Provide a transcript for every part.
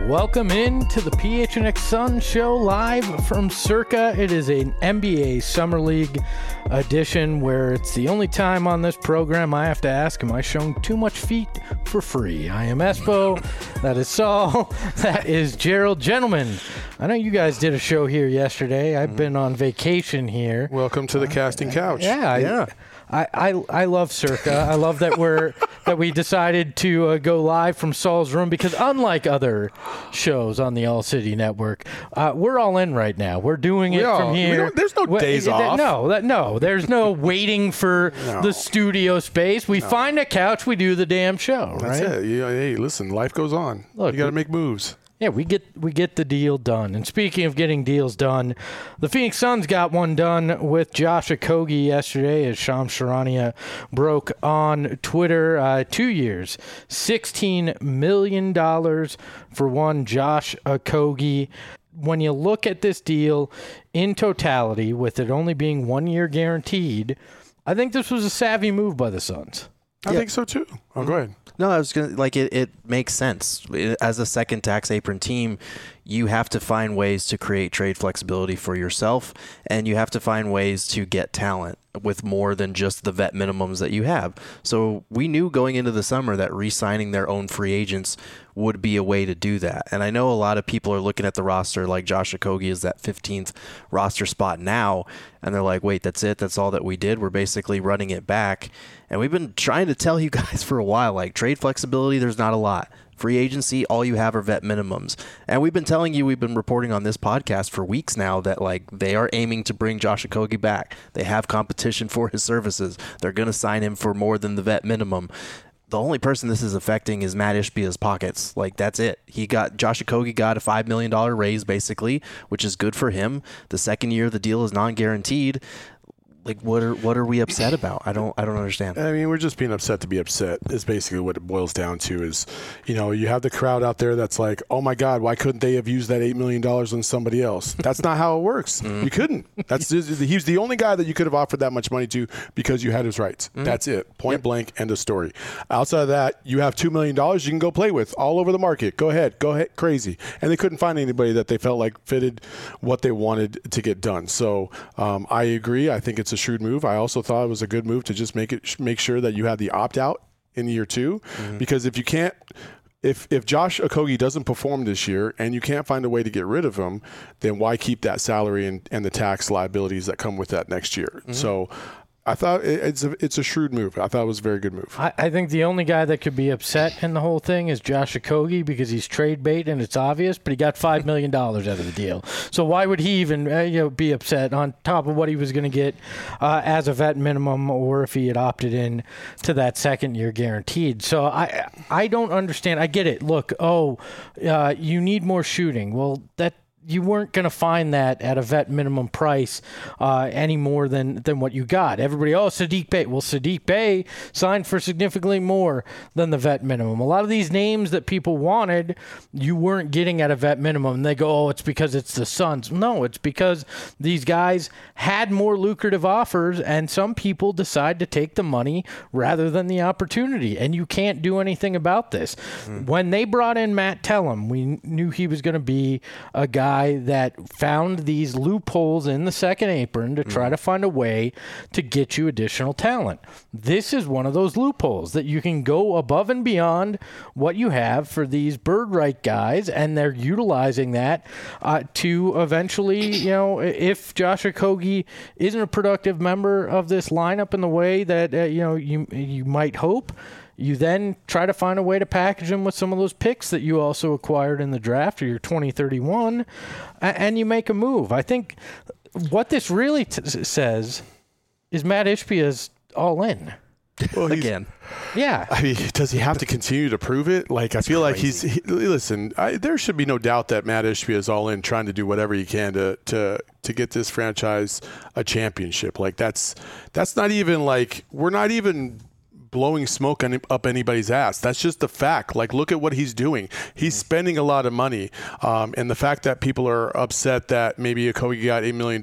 Welcome in to the PHNX Sun Show live from Circa. It is an NBA Summer League edition where it's the only time on this program I have to ask, am I showing too much feet for free? I am Espo. That is Saul. That is Gerald. Gentlemen, I know you guys did a show here yesterday. I've been on vacation here. Welcome to the casting couch. I love Circa. I love that we decided to go live from Saul's room because unlike other shows on the All City Network, we're all in right now. We're doing it from here. There's no days off. No. There's no waiting for the studio space. We find a couch. We do the damn show. That's right? it. Hey, listen, life goes on. Look, you got to make moves. Yeah, we get the deal done. And speaking of getting deals done, the Phoenix Suns got one done with Josh Okogie yesterday, as Shams Charania broke on Twitter. 2 years, $16 million for one Josh Okogie. When you look at this deal in totality, with it only being 1 year guaranteed, I think this was a savvy move by the Suns. I think so too. Oh, go ahead. No, I was going to, it makes sense. As a second tax apron team, you have to find ways to create trade flexibility for yourself, and you have to find ways to get talent with more than just the vet minimums that you have. So we knew going into the summer that re-signing their own free agents would be a way to do that. And I know a lot of people are looking at the roster like Josh Okogie is that 15th roster spot now, and they're like, wait, that's it? That's all that we did? We're basically running it back. And we've been trying to tell you guys for a while, like, trade flexibility, there's not a lot. Free agency, all you have are vet minimums. And we've been telling you, we've been reporting on this podcast for weeks now that, like, they are aiming to bring Josh Okogie back. They have competition for his services. They're going to sign him for more than the vet minimum. The only person this is affecting is Matt Ishbia's pockets. Like, that's it. Josh Okogie got a $5 million raise, basically, which is good for him. The second year of the deal is non-guaranteed. Like, what are we upset about? I don't understand. I mean, we're just being upset to be upset is basically what it boils down to. Is, you have the crowd out there that's like, oh my God, why couldn't they have used that $8 million on somebody else? That's not how it works. You couldn't. He's the only guy that you could have offered that much money to because you had his rights. That's it. Point blank, end of story. Outside of that, you have $2 million you can go play with all over the market. Go ahead, crazy. And they couldn't find anybody that they felt like fitted what they wanted to get done. So I agree. I think it's a shrewd move. I also thought it was a good move to just make sure that you have the opt-out in year two, because if Josh Okogie doesn't perform this year and you can't find a way to get rid of him, then why keep that salary and the tax liabilities that come with that next year? So I thought it's a shrewd move. I thought it was a very good move. I think the only guy that could be upset in the whole thing is Josh Okogie because he's trade bait and it's obvious, but he got $5 million out of the deal. So why would he even be upset on top of what he was going to get as a vet minimum, or if he had opted in to that second year guaranteed? So I don't understand. I get it. Look, you need more shooting. Well, you weren't going to find that at a vet minimum price any more than what you got. Everybody, Saddiq Bey. Well, Saddiq Bey signed for significantly more than the vet minimum. A lot of these names that people wanted, you weren't getting at a vet minimum. And they go, it's because it's the Suns. No, it's because these guys had more lucrative offers, and some people decide to take the money rather than the opportunity. And you can't do anything about this. When they brought in Matt Tellem, we knew he was going to be a guy that found these loopholes in the second apron to try to find a way to get you additional talent. This is one of those loopholes that you can go above and beyond what you have for these bird right guys, and they're utilizing that to eventually, if Josh Okogie isn't a productive member of this lineup in the way that you might hope, you then try to find a way to package them with some of those picks that you also acquired in the draft, or your 2031, and you make a move. I think what this really says is Matt Ishbia's all in. Well, again. Yeah. I mean, does he have to continue to prove it? Like, I feel like listen, there should be no doubt that Matt Ishbia is all in, trying to do whatever he can to get this franchise a championship. Like, that's not even like, we're not even blowing smoke up anybody's ass. That's just the fact. Like, look at what he's doing. He's spending a lot of money. And the fact that people are upset that maybe Okogie got $8 million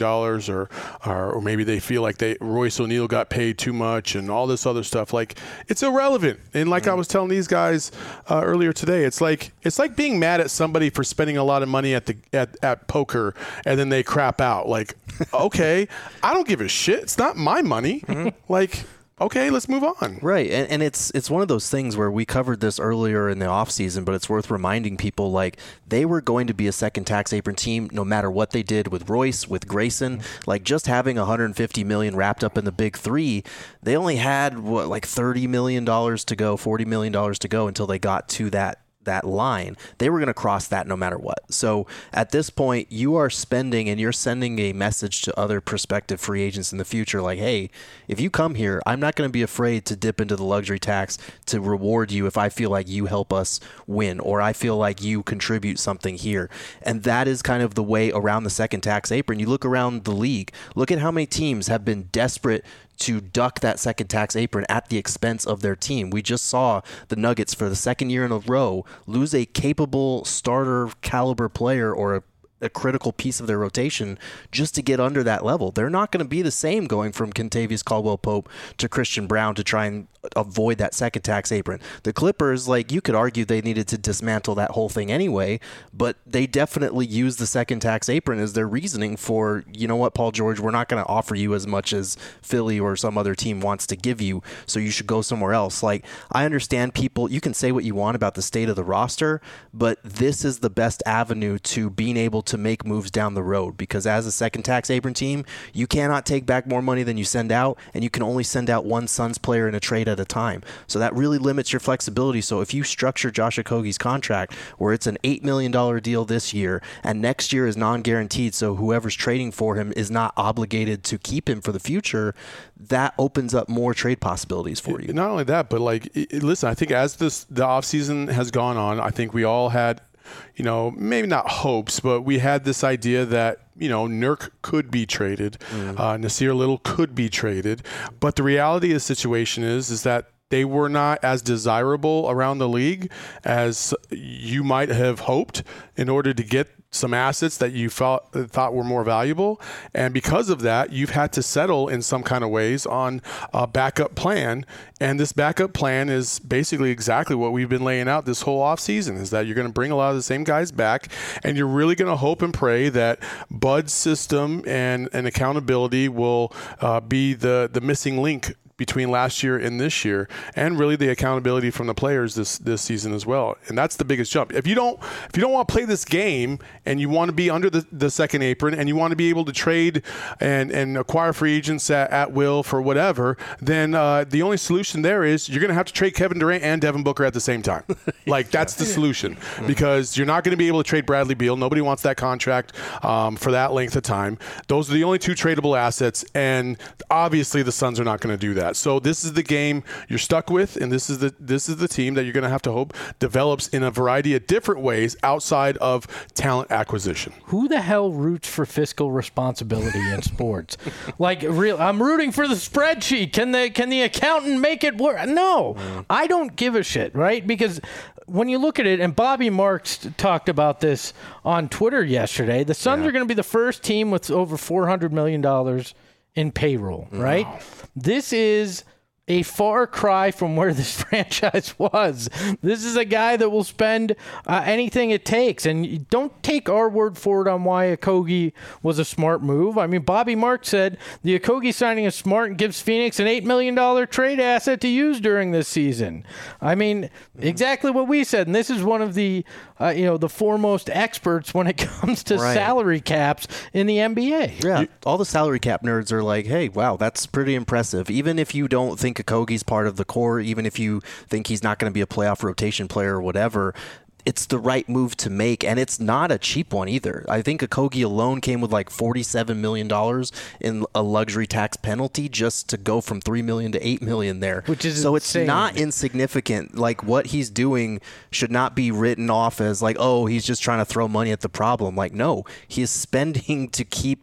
or maybe they feel like Royce O'Neal got paid too much and all this other stuff, like, it's irrelevant. And like I was telling these guys earlier today, it's like being mad at somebody for spending a lot of money at poker and then they crap out. Like, okay, I don't give a shit. It's not my money. Like, okay, let's move on. Right, and it's one of those things where we covered this earlier in the offseason, but it's worth reminding people, like, they were going to be a second tax apron team no matter what they did with Royce, with Grayson. Like, just having $150 million wrapped up in the big three, they only had, like $30 million to go, $40 million to go until they got to that line. They were going to cross that no matter what. So at this point, you are spending and you're sending a message to other prospective free agents in the future like, hey, if you come here, I'm not going to be afraid to dip into the luxury tax to reward you if I feel like you help us win or I feel like you contribute something here. And that is kind of the way around the second tax apron. You look around the league, look at how many teams have been desperate to duck that second tax apron at the expense of their team. We just saw the Nuggets for the second year in a row lose a capable starter caliber player or a critical piece of their rotation just to get under that level. They're not going to be the same going from Kentavious Caldwell-Pope to Christian Brown to try and avoid that second tax apron. The Clippers, like, you could argue they needed to dismantle that whole thing anyway, but they definitely used the second tax apron as their reasoning for, you know what, Paul George, we're not going to offer you as much as Philly or some other team wants to give you, so you should go somewhere else. Like, I understand people, you can say what you want about the state of the roster, but this is the best avenue to being able to make moves down the road, because as a second tax apron team, you cannot take back more money than you send out, and you can only send out one Suns player in a trade at a time. So that really limits your flexibility. So if you structure Josh Okogie's contract where it's an $8 million deal this year and next year is non-guaranteed, so whoever's trading for him is not obligated to keep him for the future, that opens up more trade possibilities for you. Not only that, but like, listen, I think as the offseason has gone on, I think we all had, you know, maybe not hopes, but we had this idea that, you know, Nurk could be traded, Nasir Little could be traded, but the reality of the situation is that they were not as desirable around the league as you might have hoped in order to get some assets that you thought were more valuable. And because of that, you've had to settle in some kind of ways on a backup plan. And this backup plan is basically exactly what we've been laying out this whole offseason, is that you're going to bring a lot of the same guys back, and you're really going to hope and pray that Bud's system and accountability will be the missing link between last year and this year, and really the accountability from the players this season as well. And that's the biggest jump. If you don't want to play this game and you want to be under the second apron and you want to be able to trade and acquire free agents at will for whatever, then the only solution there is you're going to have to trade Kevin Durant and Devin Booker at the same time. Like, that's the solution, because you're not going to be able to trade Bradley Beal. Nobody wants that contract for that length of time. Those are the only two tradable assets, and obviously the Suns are not going to do that. So this is the game you're stuck with, and this is the team that you're going to have to hope develops in a variety of different ways outside of talent acquisition. Who the hell roots for fiscal responsibility in sports? Like, I'm rooting for the spreadsheet. Can the accountant make it work? No, I don't give a shit, right? Because when you look at it, and Bobby Marks talked about this on Twitter yesterday, the Suns are going to be the first team with over $400 million in payroll, right? This is a far cry from where this franchise was. This is a guy that will spend anything it takes. And you don't take our word for it on why Okogie was a smart move. I mean, Bobby Marks said the Okogie signing is smart and gives Phoenix an $8 million trade asset to use during this season. I mean, exactly what we said. And this is one of the the foremost experts when it comes to salary caps in the NBA. Yeah, all the salary cap nerds are like, hey, wow, that's pretty impressive. Even if you don't think Okogie's part of the core, even if you think he's not going to be a playoff rotation player or whatever, it's the right move to make, and it's not a cheap one either. I think Okogie alone came with like $47 million in a luxury tax penalty just to go from $3 million to $8 million there. Which is so insane. It's not insignificant. Like, what he's doing should not be written off as like, oh, he's just trying to throw money at the problem. Like, no, he is spending to keep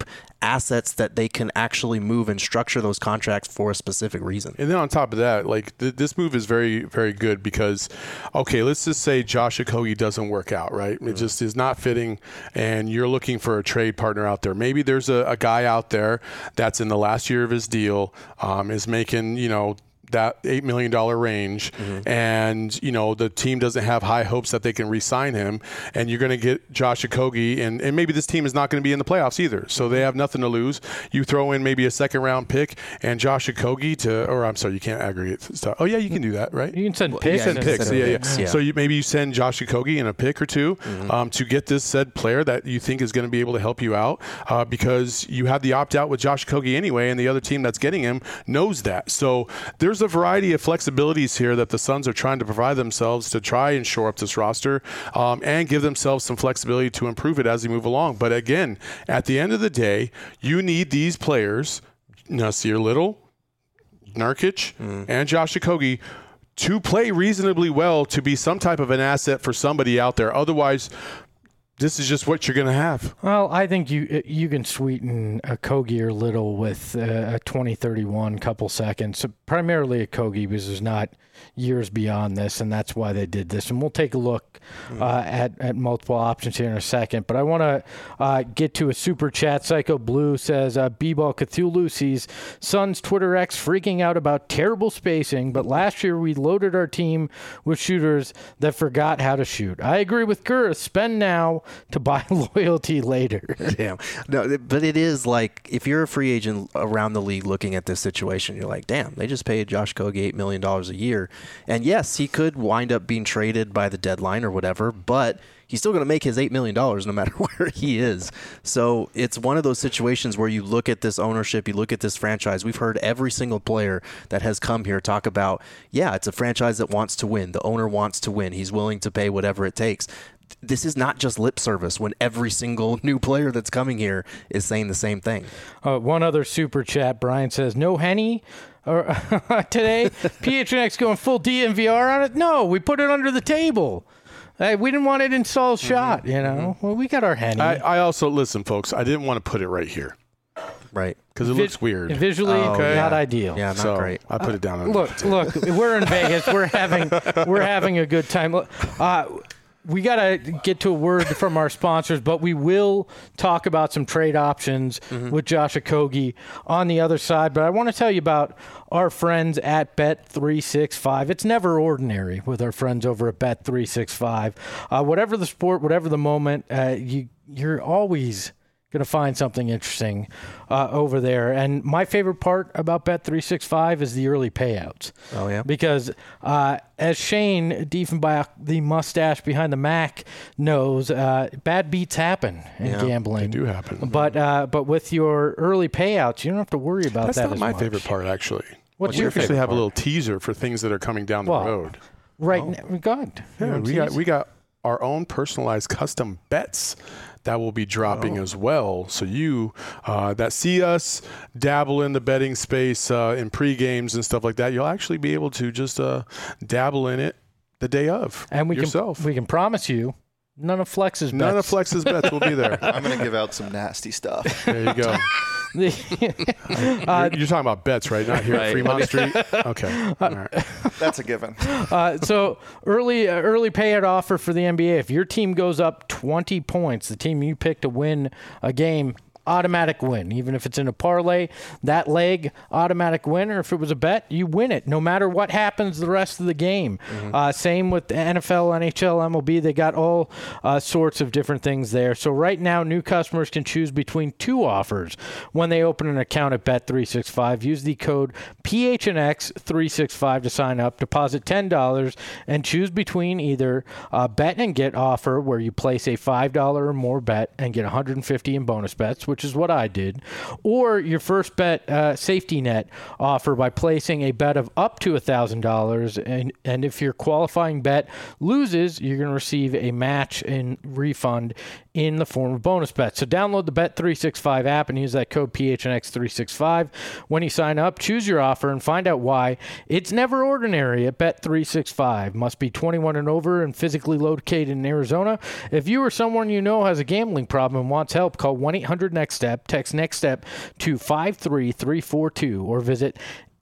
assets that they can actually move and structure those contracts for a specific reason. And then on top of that, like this move is very, very good because, okay, let's just say Josh Okogie doesn't work out, right? It just is not fitting, and you're looking for a trade partner out there. Maybe there's a guy out there that's in the last year of his deal, is making, that $8 million range, and the team doesn't have high hopes that they can re-sign him, and you're going to get Josh Okogie, and maybe this team is not going to be in the playoffs either, so they have nothing to lose. You throw in maybe a second-round pick and Josh Okogie I'm sorry, you can't aggregate stuff. Oh yeah, you can do that, right? You can send picks. Send picks. Yeah. So maybe you send Josh Okogie and a pick or two to get this said player that you think is going to be able to help you out, because you have the opt-out with Josh Okogie anyway, and the other team that's getting him knows that. So there's a variety of flexibilities here that the Suns are trying to provide themselves to try and shore up this roster, and give themselves some flexibility to improve it as they move along. But again, at the end of the day, you need these players, Nasir Little, Nurkic, and Josh Okogie, to play reasonably well to be some type of an asset for somebody out there. Otherwise, this is just what you're going to have. Well, I think you can sweeten a Okogie or Little with a 2031 couple seconds. Primarily a Okogie, because there's not years beyond this, and that's why they did this. And we'll take a look at multiple options here in a second. But I want to get to a super chat. Psycho Blue says, B-Ball Cthulhu sees Suns Twitter X freaking out about terrible spacing, but last year we loaded our team with shooters that forgot how to shoot. I agree with Gurr. Spend now to buy loyalty later. Damn. No, but it is like, if you're a free agent around the league looking at this situation, you're like, damn, they just paid Josh Okogie $8 million a year. And yes, he could wind up being traded by the deadline or whatever, but he's still going to make his $8 million no matter where he is. So it's one of those situations where you look at this ownership, you look at this franchise. We've heard every single player that has come here talk about, yeah, it's a franchise that wants to win. The owner wants to win. He's willing to pay whatever it takes. This is not just lip service when every single new player that's coming here is saying the same thing. One other super chat. Brian says, no Henny today. PHNX going full DNVR on it? No, we put it under the table. We didn't want it installed shot, Well, we got our Henny. I also, listen, folks, I didn't want to put it right here. Right. Because it looks weird. Visually, not ideal. Yeah, not great. I put it down on Look, we're in Vegas. We're having a good time. We got to get to a word from our sponsors, but we will talk about some trade options with Josh Okogie on the other side. But I want to tell you about our friends at Bet365. It's never ordinary with our friends over at Bet365. Whatever the sport, whatever the moment, you're always going to find something interesting over there. And my favorite part about Bet365 is the early payouts. Oh, yeah? Because as Shane Diefenbach, the mustache behind the Mac, knows, bad beats happen in gambling. They do happen. But with your early payouts, you don't have to worry about That's that not as my much. favorite part, actually. What's we your actually favorite have part? a little teaser for things that are coming down the road. Right now, God. Yeah, we got our own personalized custom bets that will be dropping as well. So you that see us dabble in the betting space in pre-games and stuff like that, you'll actually be able to just dabble in it the day of and we can promise you none of Flex's bets will be there. I'm going to give out some nasty stuff. There you go. You're talking about bets, right? Not here at Fremont Street? Okay. All right. That's a given. So early payout offer for the NBA. If your team goes up 20 points, the team you pick to win a game, automatic win. Even if it's in a parlay, that leg, automatic win. Or if it was a bet, you win it no matter what happens the rest of the game. Same with the NFL, NHL, MLB. They got all sorts of different things there. So right now, new customers can choose between two offers when they open an account at Bet365. Use the code PHNX365 to sign up. Deposit $10 and choose between either a bet and get offer where you place a $5 or more bet and get $150 in bonus bets, which is what I did, or your first bet safety net offer by placing a bet of up to $1,000, and if your qualifying bet loses, you're going to receive a match and refund in the form of bonus bets. So download the Bet365 app and use that code PHNX365 when you sign up. Choose your offer and find out why it's never ordinary at Bet365. Must be 21 and over and physically located in Arizona. If you or someone you know has a gambling problem and wants help, call 1-800-NEXT Next Step. Text Next Step to 53342 or visit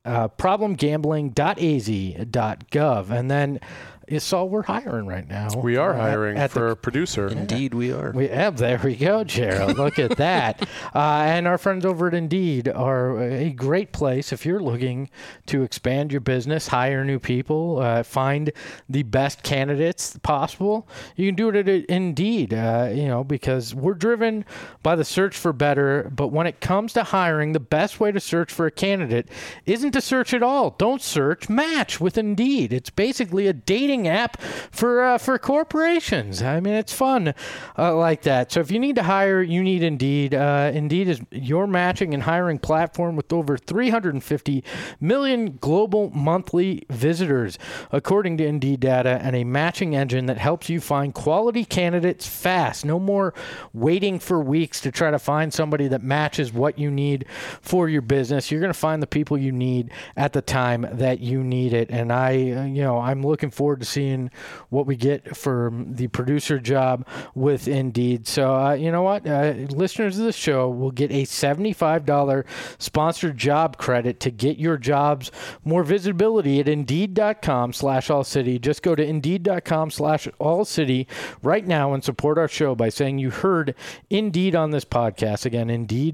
problemgambling.az.gov. And then Saul, we're hiring right now. We are hiring for a producer. Indeed, we are. There we go, Gerald. Look at that. And our friends over at Indeed are a great place if you're looking to expand your business, hire new people, find the best candidates possible. You can do it at Indeed, because we're driven by the search for better. But when it comes to hiring, the best way to search for a candidate isn't to search at all. Don't search, match with Indeed. It's basically a dating app for corporations. I mean, it's fun like that. So if you need to hire, you need Indeed. Indeed is your matching and hiring platform with over 350 million global monthly visitors, according to Indeed data, and a matching engine that helps you find quality candidates fast. No more waiting for weeks to try to find somebody that matches what you need for your business. You're going to find the people you need at the time that you need it. And I'm looking forward to seeing what we get for the producer job with Indeed. So, you know what? Listeners of the show will get a $75 sponsored job credit to get your jobs more visibility at Indeed.com/AllCity. Just go to Indeed.com/AllCity right now and support our show by saying you heard Indeed on this podcast. Again,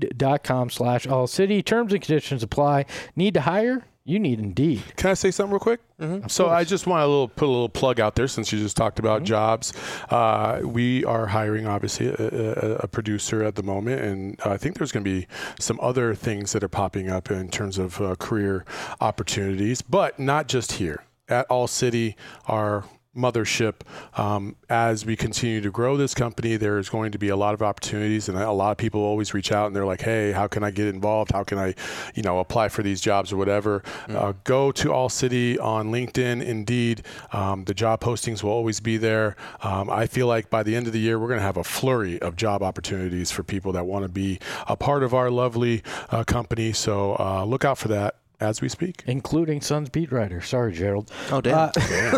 Indeed.com/AllCity. Terms and conditions apply. Need to hire? You need Indeed. Can I say something real quick? Mm-hmm. So I just want to put a little plug out there since you just talked about jobs. We are hiring, obviously, a producer at the moment, and I think there's going to be some other things that are popping up in terms of career opportunities, but not just here. At All City, our mothership, as we continue to grow this company, there's going to be a lot of opportunities, and a lot of people always reach out and they're like, hey, how can I get involved? How can I, apply for these jobs or whatever? Go to All City on LinkedIn, Indeed. The job postings will always be there. I feel like by the end of the year, we're going to have a flurry of job opportunities for people that want to be a part of our lovely company. So look out for that as we speak. Including Suns beat writer. Sorry, Gerald. Oh, damn.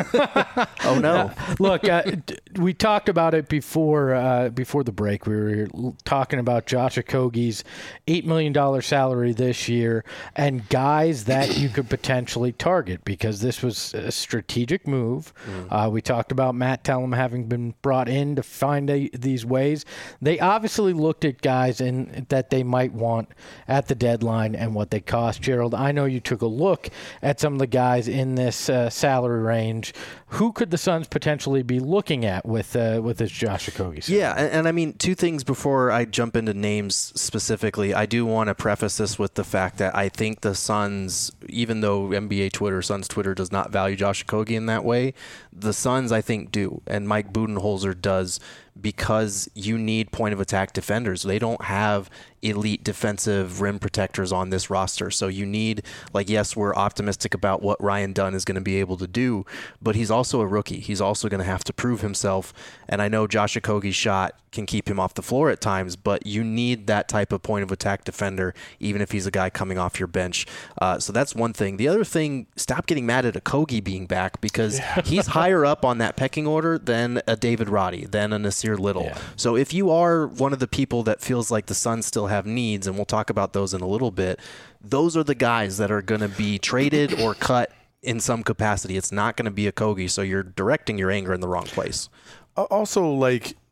Oh, no. Look, we talked about it before the break. We were talking about Josh Okogie's $8 million salary this year and guys that you could potentially target because this was a strategic move. We talked about Matt Tellem having been brought in to find these ways. They obviously looked at guys that they might want at the deadline and what they cost. Gerald, I know you took a look at some of the guys in this salary range. Who could the Suns potentially be looking at with this Josh Okogie salary? Yeah, and I mean, two things before I jump into names specifically. I do want to preface this with the fact that I think the Suns, even though NBA Twitter, Suns Twitter does not value Josh Okogie in that way, the Suns, I think, do, and Mike Budenholzer does, because you need point-of-attack defenders. They don't have elite defensive rim protectors on this roster. So you need, yes, we're optimistic about what Ryan Dunn is going to be able to do, but he's also a rookie. He's also going to have to prove himself. And I know Josh Okogie's shot can keep him off the floor at times, but you need that type of point-of-attack defender, even if he's a guy coming off your bench. So that's one thing. The other thing, stop getting mad at Okogie being back, because he's higher up on that pecking order than a David Roddy, than a Nasir Little. Yeah. So if you are one of the people that feels like the Suns still have needs, and we'll talk about those in a little bit, those are the guys that are going to be traded or cut in some capacity. It's not going to be Okogie, so you're directing your anger in the wrong place. Also,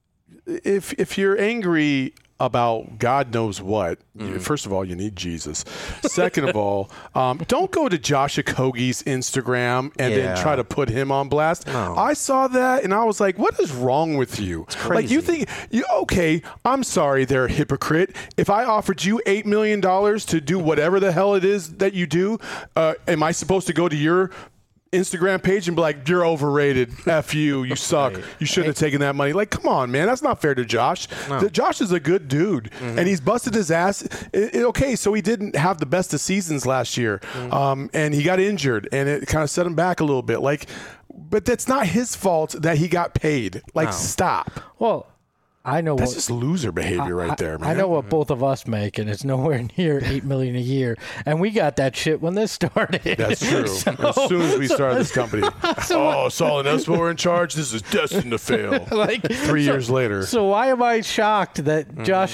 if you're angry about God knows what, first of all, you need Jesus. Second of all, don't go to Josh Okogie's Instagram and then try to put him on blast. No. I saw that and I was like, what is wrong with you? It's crazy. You think, okay, I'm sorry, they're a hypocrite. If I offered you $8 million to do whatever the hell it is that you do, am I supposed to go to your Instagram page and be like, you're overrated, F you, you suck, you shouldn't have taken that money? Come on, man, that's not fair to Josh. No. Josh is a good dude, and he's busted his ass. Okay, so he didn't have the best of seasons last year, and he got injured, and it kind of set him back a little bit. But that's not his fault that he got paid. Stop. Well, I know That's what, just loser behavior right there, man. I know what both of us make, and it's nowhere near $8 million a year. And we got that shit when this started. That's true. As soon as we started this company, Saul and us were in charge. This is destined to fail. Like 3 years later. So why am I shocked that Josh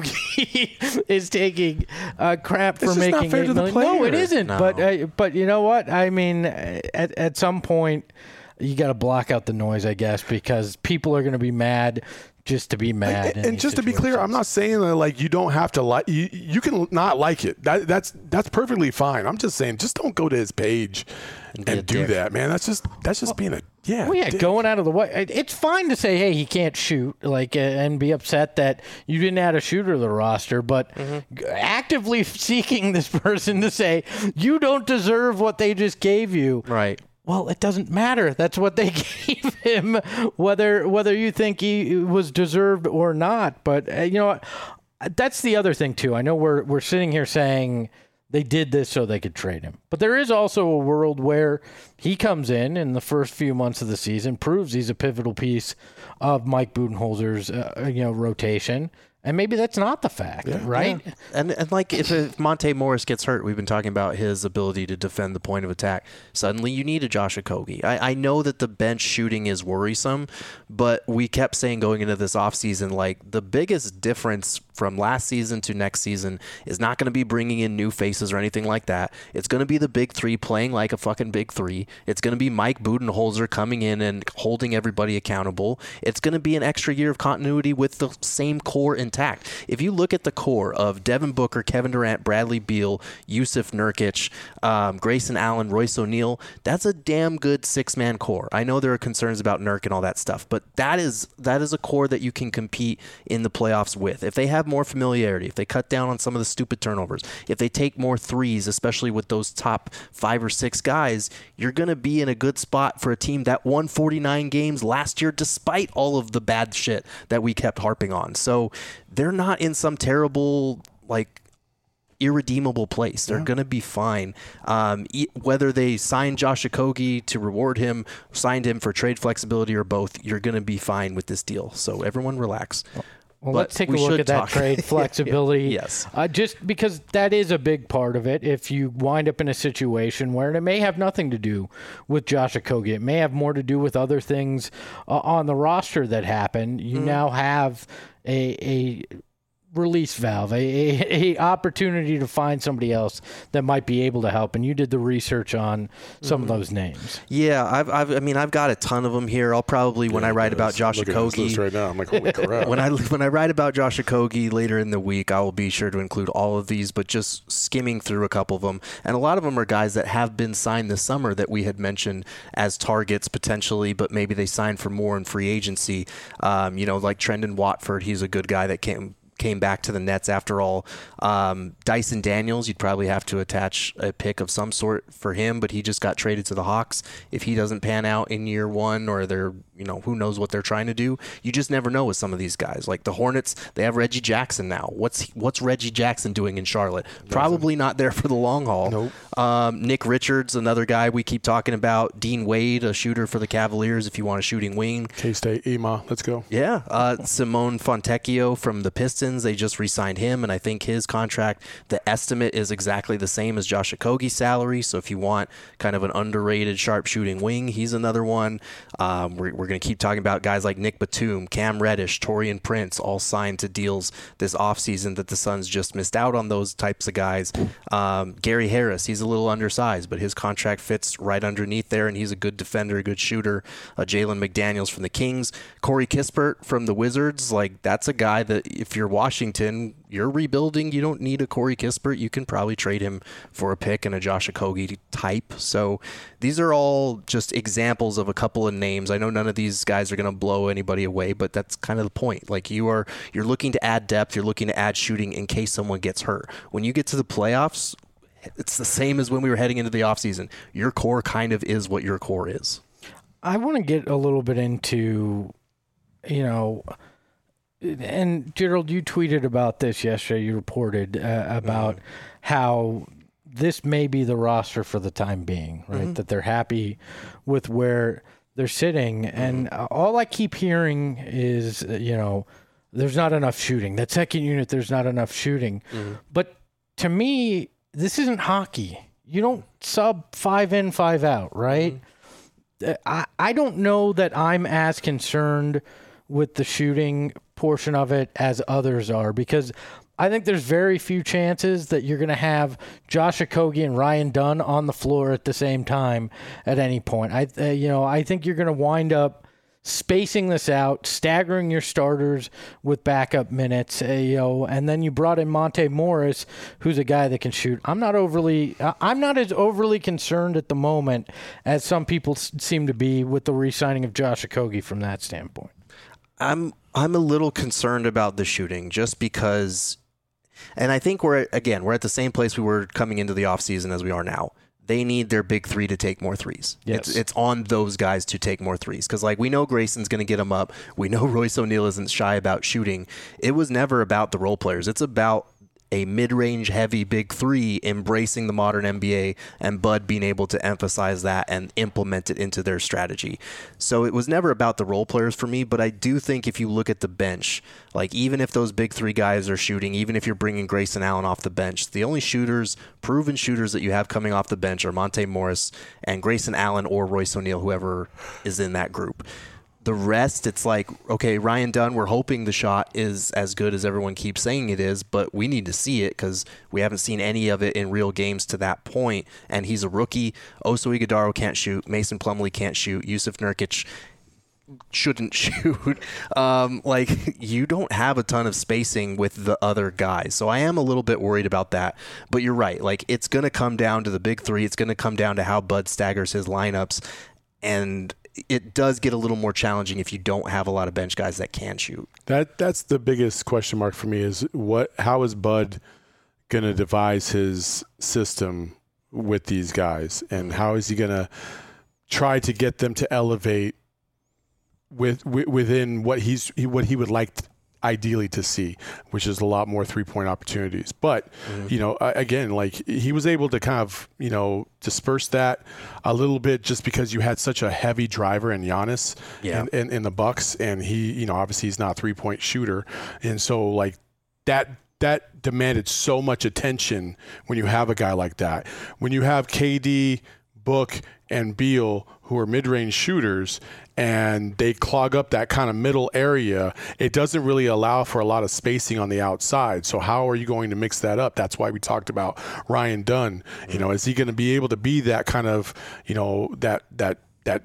Okogie is taking crap for It's just not making fair $8 to the million? No, it player. isn't. No. But you know what? I mean, at some point, you got to block out the noise, I guess, because people are going to be mad just to be mad. And just to be clear, I'm not saying that like you don't have to like you can not like it. That's perfectly fine. I'm just saying just don't go to his page and do that, man. That's just being a dick. Going out of the way. It's fine to say, hey, he can't shoot, like, and be upset that you didn't add a shooter to the roster, but actively seeking this person to say you don't deserve what they just gave you. Right. Well, it doesn't matter. That's what they gave him, whether you think he was deserved or not. But you know what? That's the other thing too. I know we're sitting here saying they did this so they could trade him, but there is also a world where he comes in the first few months of the season, proves he's a pivotal piece of Mike Budenholzer's rotation. And maybe that's not the fact, right? Yeah. And like if Monte Morris gets hurt, we've been talking about his ability to defend the point of attack. Suddenly you need a Josh Okogie. I know that the bench shooting is worrisome, but we kept saying going into this offseason, like the biggest difference from last season to next season is not going to be bringing in new faces or anything like that. It's going to be the big three playing like a fucking big three. It's going to be Mike Budenholzer coming in and holding everybody accountable. It's going to be an extra year of continuity with the same core intact. If you look at the core of Devin Booker, Kevin Durant, Bradley Beal, Yusuf Nurkic, Grayson Allen, Royce O'Neal, that's a damn good six-man core. I know there are concerns about Nurk and all that stuff, but that is a core that you can compete in the playoffs with. If they have more familiarity, if they cut down on some of the stupid turnovers, if they take more threes, especially with those top 5 or 6 guys, you're going to be in a good spot for a team that won 49 games last year despite all of the bad shit that we kept harping on. So they're not in some terrible, like, irredeemable place. They're going to be fine. Whether they sign Josh Okogie to reward him, signed him for trade flexibility, or both, you're going to be fine with this deal. So everyone relax. Well, let's take a look at that trade flexibility. Yes. Just because that is a big part of it. If you wind up in a situation where it may have nothing to do with Josh Okogie, it may have more to do with other things on the roster that happen. You now have a release valve, a opportunity to find somebody else that might be able to help. And you did the research on some of those names. Yeah, I've got a ton of them here. I'll probably when I write about Josh Okogie right now, I'm like, holy crap. when I write about Josh Okogie later in the week, I will be sure to include all of these. But just skimming through a couple of them, and a lot of them are guys that have been signed this summer that we had mentioned as targets potentially, but maybe they signed for more in free agency. Like Trendon Watford, he's a good guy that came back to the Nets after all. Dyson Daniels, you'd probably have to attach a pick of some sort for him, but he just got traded to the Hawks. If he doesn't pan out in year one, or they're, who knows what they're trying to do, you just never know with some of these guys. Like the Hornets, they have Reggie Jackson now. What's Reggie Jackson doing in Charlotte? Probably not there for the long haul. Nope. Nick Richards, another guy we keep talking about. Dean Wade, a shooter for the Cavaliers if you want a shooting wing. K-State, EMA, let's go. Yeah. Simone Fontecchio from the Pistons, they just re-signed him, and I think his contract, the estimate is exactly the same as Josh Okogie's salary. So if you want kind of an underrated sharpshooting wing, he's another one. We're going to keep talking about guys like Nick Batum, Cam Reddish, Taurean Prince, all signed to deals this offseason that the Suns just missed out on those types of guys. Gary Harris, he's a little undersized, but his contract fits right underneath there, and he's a good defender, a good shooter. Jalen McDaniels from the Kings. Corey Kispert from the Wizards, like that's a guy that if you're Washington, you're rebuilding, you don't need a Corey Kispert. You can probably trade him for a pick and a Josh Okogie type. So these are all just examples of a couple of names. I know none of these guys are going to blow anybody away, but that's kind of the point. Like you're looking to add depth, you're looking to add shooting in case someone gets hurt. When you get to the playoffs, it's the same as when we were heading into the offseason. Your core kind of is what your core is. I want to get a little bit into, and Gerald, you tweeted about this yesterday. You reported about how this may be the roster for the time being, right? That they're happy with where they're sitting. And all I keep hearing is, there's not enough shooting. That second unit, there's not enough shooting. But to me, this isn't hockey. You don't sub 5 in, 5 out, right? I don't know that I'm as concerned with the shooting portion of it as others are, because I think there's very few chances that you're going to have Josh Okogie and Ryan Dunn on the floor at the same time at any point. I think you're going to wind up spacing this out, staggering your starters with backup minutes, and then you brought in Monte Morris, who's a guy that can shoot. I'm not as overly concerned at the moment as some people seem to be with the re-signing of Josh Okogie from that standpoint. I'm a little concerned about the shooting just because, and I think we're at the same place we were coming into the offseason as we are now. They need their big three to take more threes. Yes. It's on those guys to take more threes. Because, we know Grayson's going to get them up. We know Royce O'Neal isn't shy about shooting. It was never about the role players. It's about a mid-range heavy big three embracing the modern NBA and Bud being able to emphasize that and implement it into their strategy. So it was never about the role players for me, but I do think if you look at the bench, even if those big three guys are shooting, even if you're bringing Grayson Allen off the bench, the only proven shooters that you have coming off the bench are Monte Morris and Grayson Allen or Royce O'Neal, whoever is in that group. The rest, it's okay, Ryan Dunn, we're hoping the shot is as good as everyone keeps saying it is, but we need to see it because we haven't seen any of it in real games to that point, and he's a rookie. Oso Ighodaro can't shoot. Mason Plumlee can't shoot. Yusuf Nurkic shouldn't shoot. You don't have a ton of spacing with the other guys, so I am a little bit worried about that. But you're right. It's going to come down to the big three. It's going to come down to how Bud staggers his lineups, and it does get a little more challenging if you don't have a lot of bench guys that can shoot. That's the biggest question mark for me is how is Bud going to devise his system with these guys, and how is he going to try to get them to elevate within what he would like ideally to see, which is a lot more 3-point opportunities. But, again, he was able to kind of, disperse that a little bit just because you had such a heavy driver in Giannis in the Bucks. And he, obviously he's not a 3-point shooter. And so that demanded so much attention when you have a guy like that. When you have KD, Book, and Beal, who are mid-range shooters, and they clog up that kind of middle area, it doesn't really allow for a lot of spacing on the outside. So how are you going to mix that up? That's why we talked about Ryan Dunn. Is he going to be able to be that kind of, that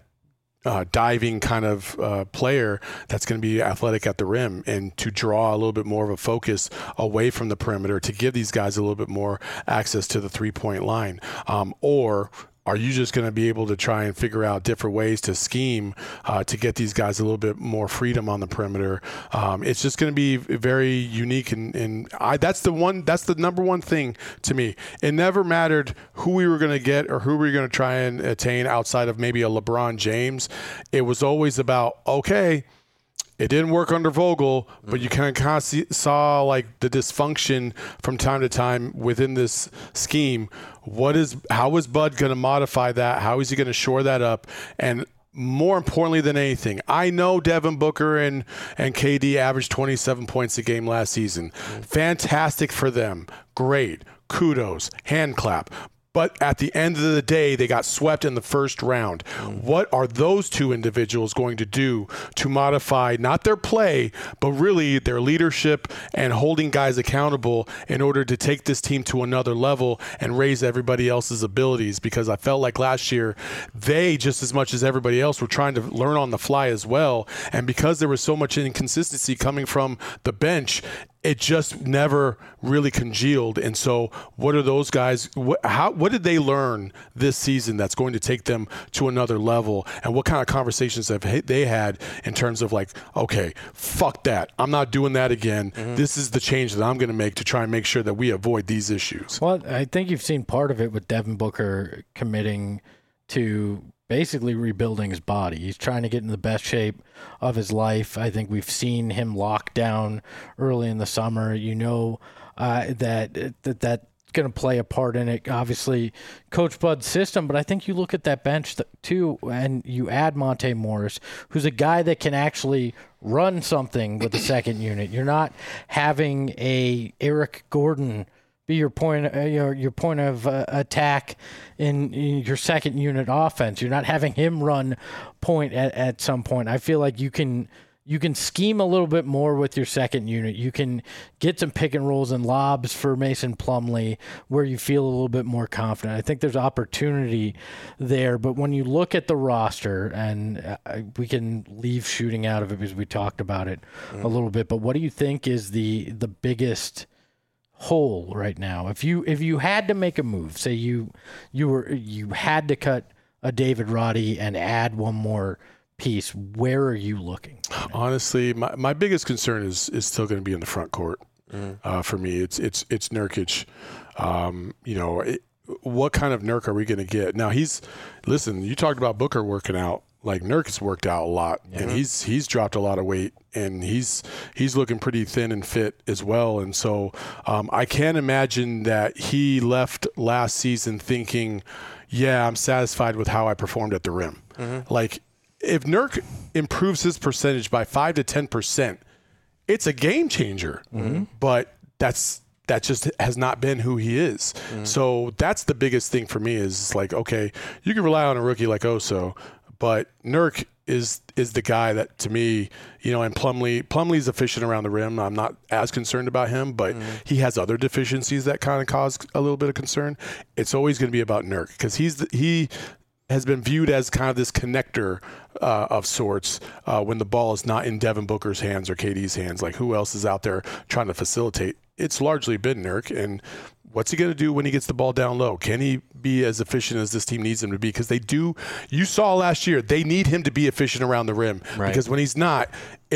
diving kind of player that's going to be athletic at the rim and to draw a little bit more of a focus away from the perimeter to give these guys a little bit more access to the 3-point line? Or are you just going to be able to try and figure out different ways to scheme to get these guys a little bit more freedom on the perimeter? It's just going to be very unique, and that's the number one thing to me. It never mattered who we were going to get or who we were going to try and attain outside of maybe a LeBron James. It was always about, okay, it didn't work under Vogel, but you kind of saw the dysfunction from time to time within this scheme. How is Bud going to modify that? How is he going to shore that up? And more importantly than anything, I know Devin Booker and KD averaged 27 points a game last season. Fantastic for them. Great. Kudos. Hand clap. But at the end of the day, they got swept in the first round. What are those two individuals going to do to modify not their play, but really their leadership and holding guys accountable in order to take this team to another level and raise everybody else's abilities? Because I felt like last year, they, just as much as everybody else, were trying to learn on the fly as well. And because there was so much inconsistency coming from the bench, it just never really congealed. And so what are those guys, what did they learn this season that's going to take them to another level? And what kind of conversations have they had in terms of okay, fuck that. I'm not doing that again. This is the change that I'm going to make to try and make sure that we avoid these issues. Well, I think you've seen part of it with Devin Booker committing to basically rebuilding his body. He's trying to get in the best shape of his life. I think we've seen him lock down early in the summer. That going to play a part in it. Obviously, Coach Bud's system, but I think you look at that bench too, and you add Monte Morris, who's a guy that can actually run something with the second unit. You're not having a Eric Gordon be your point of attack in your second unit offense. You're not having him run point at some point. I feel like you can scheme a little bit more with your second unit. You can get some pick and rolls and lobs for Mason Plumlee where you feel a little bit more confident. I think there's opportunity there, but when you look at the roster, and we can leave shooting out of it because we talked about it a little bit, but what do you think is the biggest hole right now? If you had to make a move, say you had to cut a David Roddy and add one more piece, where are you looking? Honestly, my biggest concern is still going to be in the front court. For me, it's Nurkic. What kind of Nurk are we going to get? Now listen, you talked about Booker working out. Like, Nurkic's worked out a lot, and he's dropped a lot of weight, and he's looking pretty thin and fit as well. And so I can't imagine that he left last season thinking, yeah, I'm satisfied with how I performed at the rim. Like, if Nurk improves his percentage by 5 to 10%, it's a game changer. But that just has not been who he is. So that's the biggest thing for me is like, okay, you can rely on a rookie like Oso, but Nurk is the guy that, to me, and Plumlee's efficient around the rim. I'm not as concerned about him, but he has other deficiencies that kind of cause a little bit of concern. It's always going to be about Nurk because he has been viewed as kind of this connector of sorts when the ball is not in Devin Booker's hands or KD's hands. Like, who else is out there trying to facilitate? It's largely been Nurk. And what's he going to do when he gets the ball down low? Can he be as efficient as this team needs him to be? Because you saw last year, they need him to be efficient around the rim. Right. Because when he's not,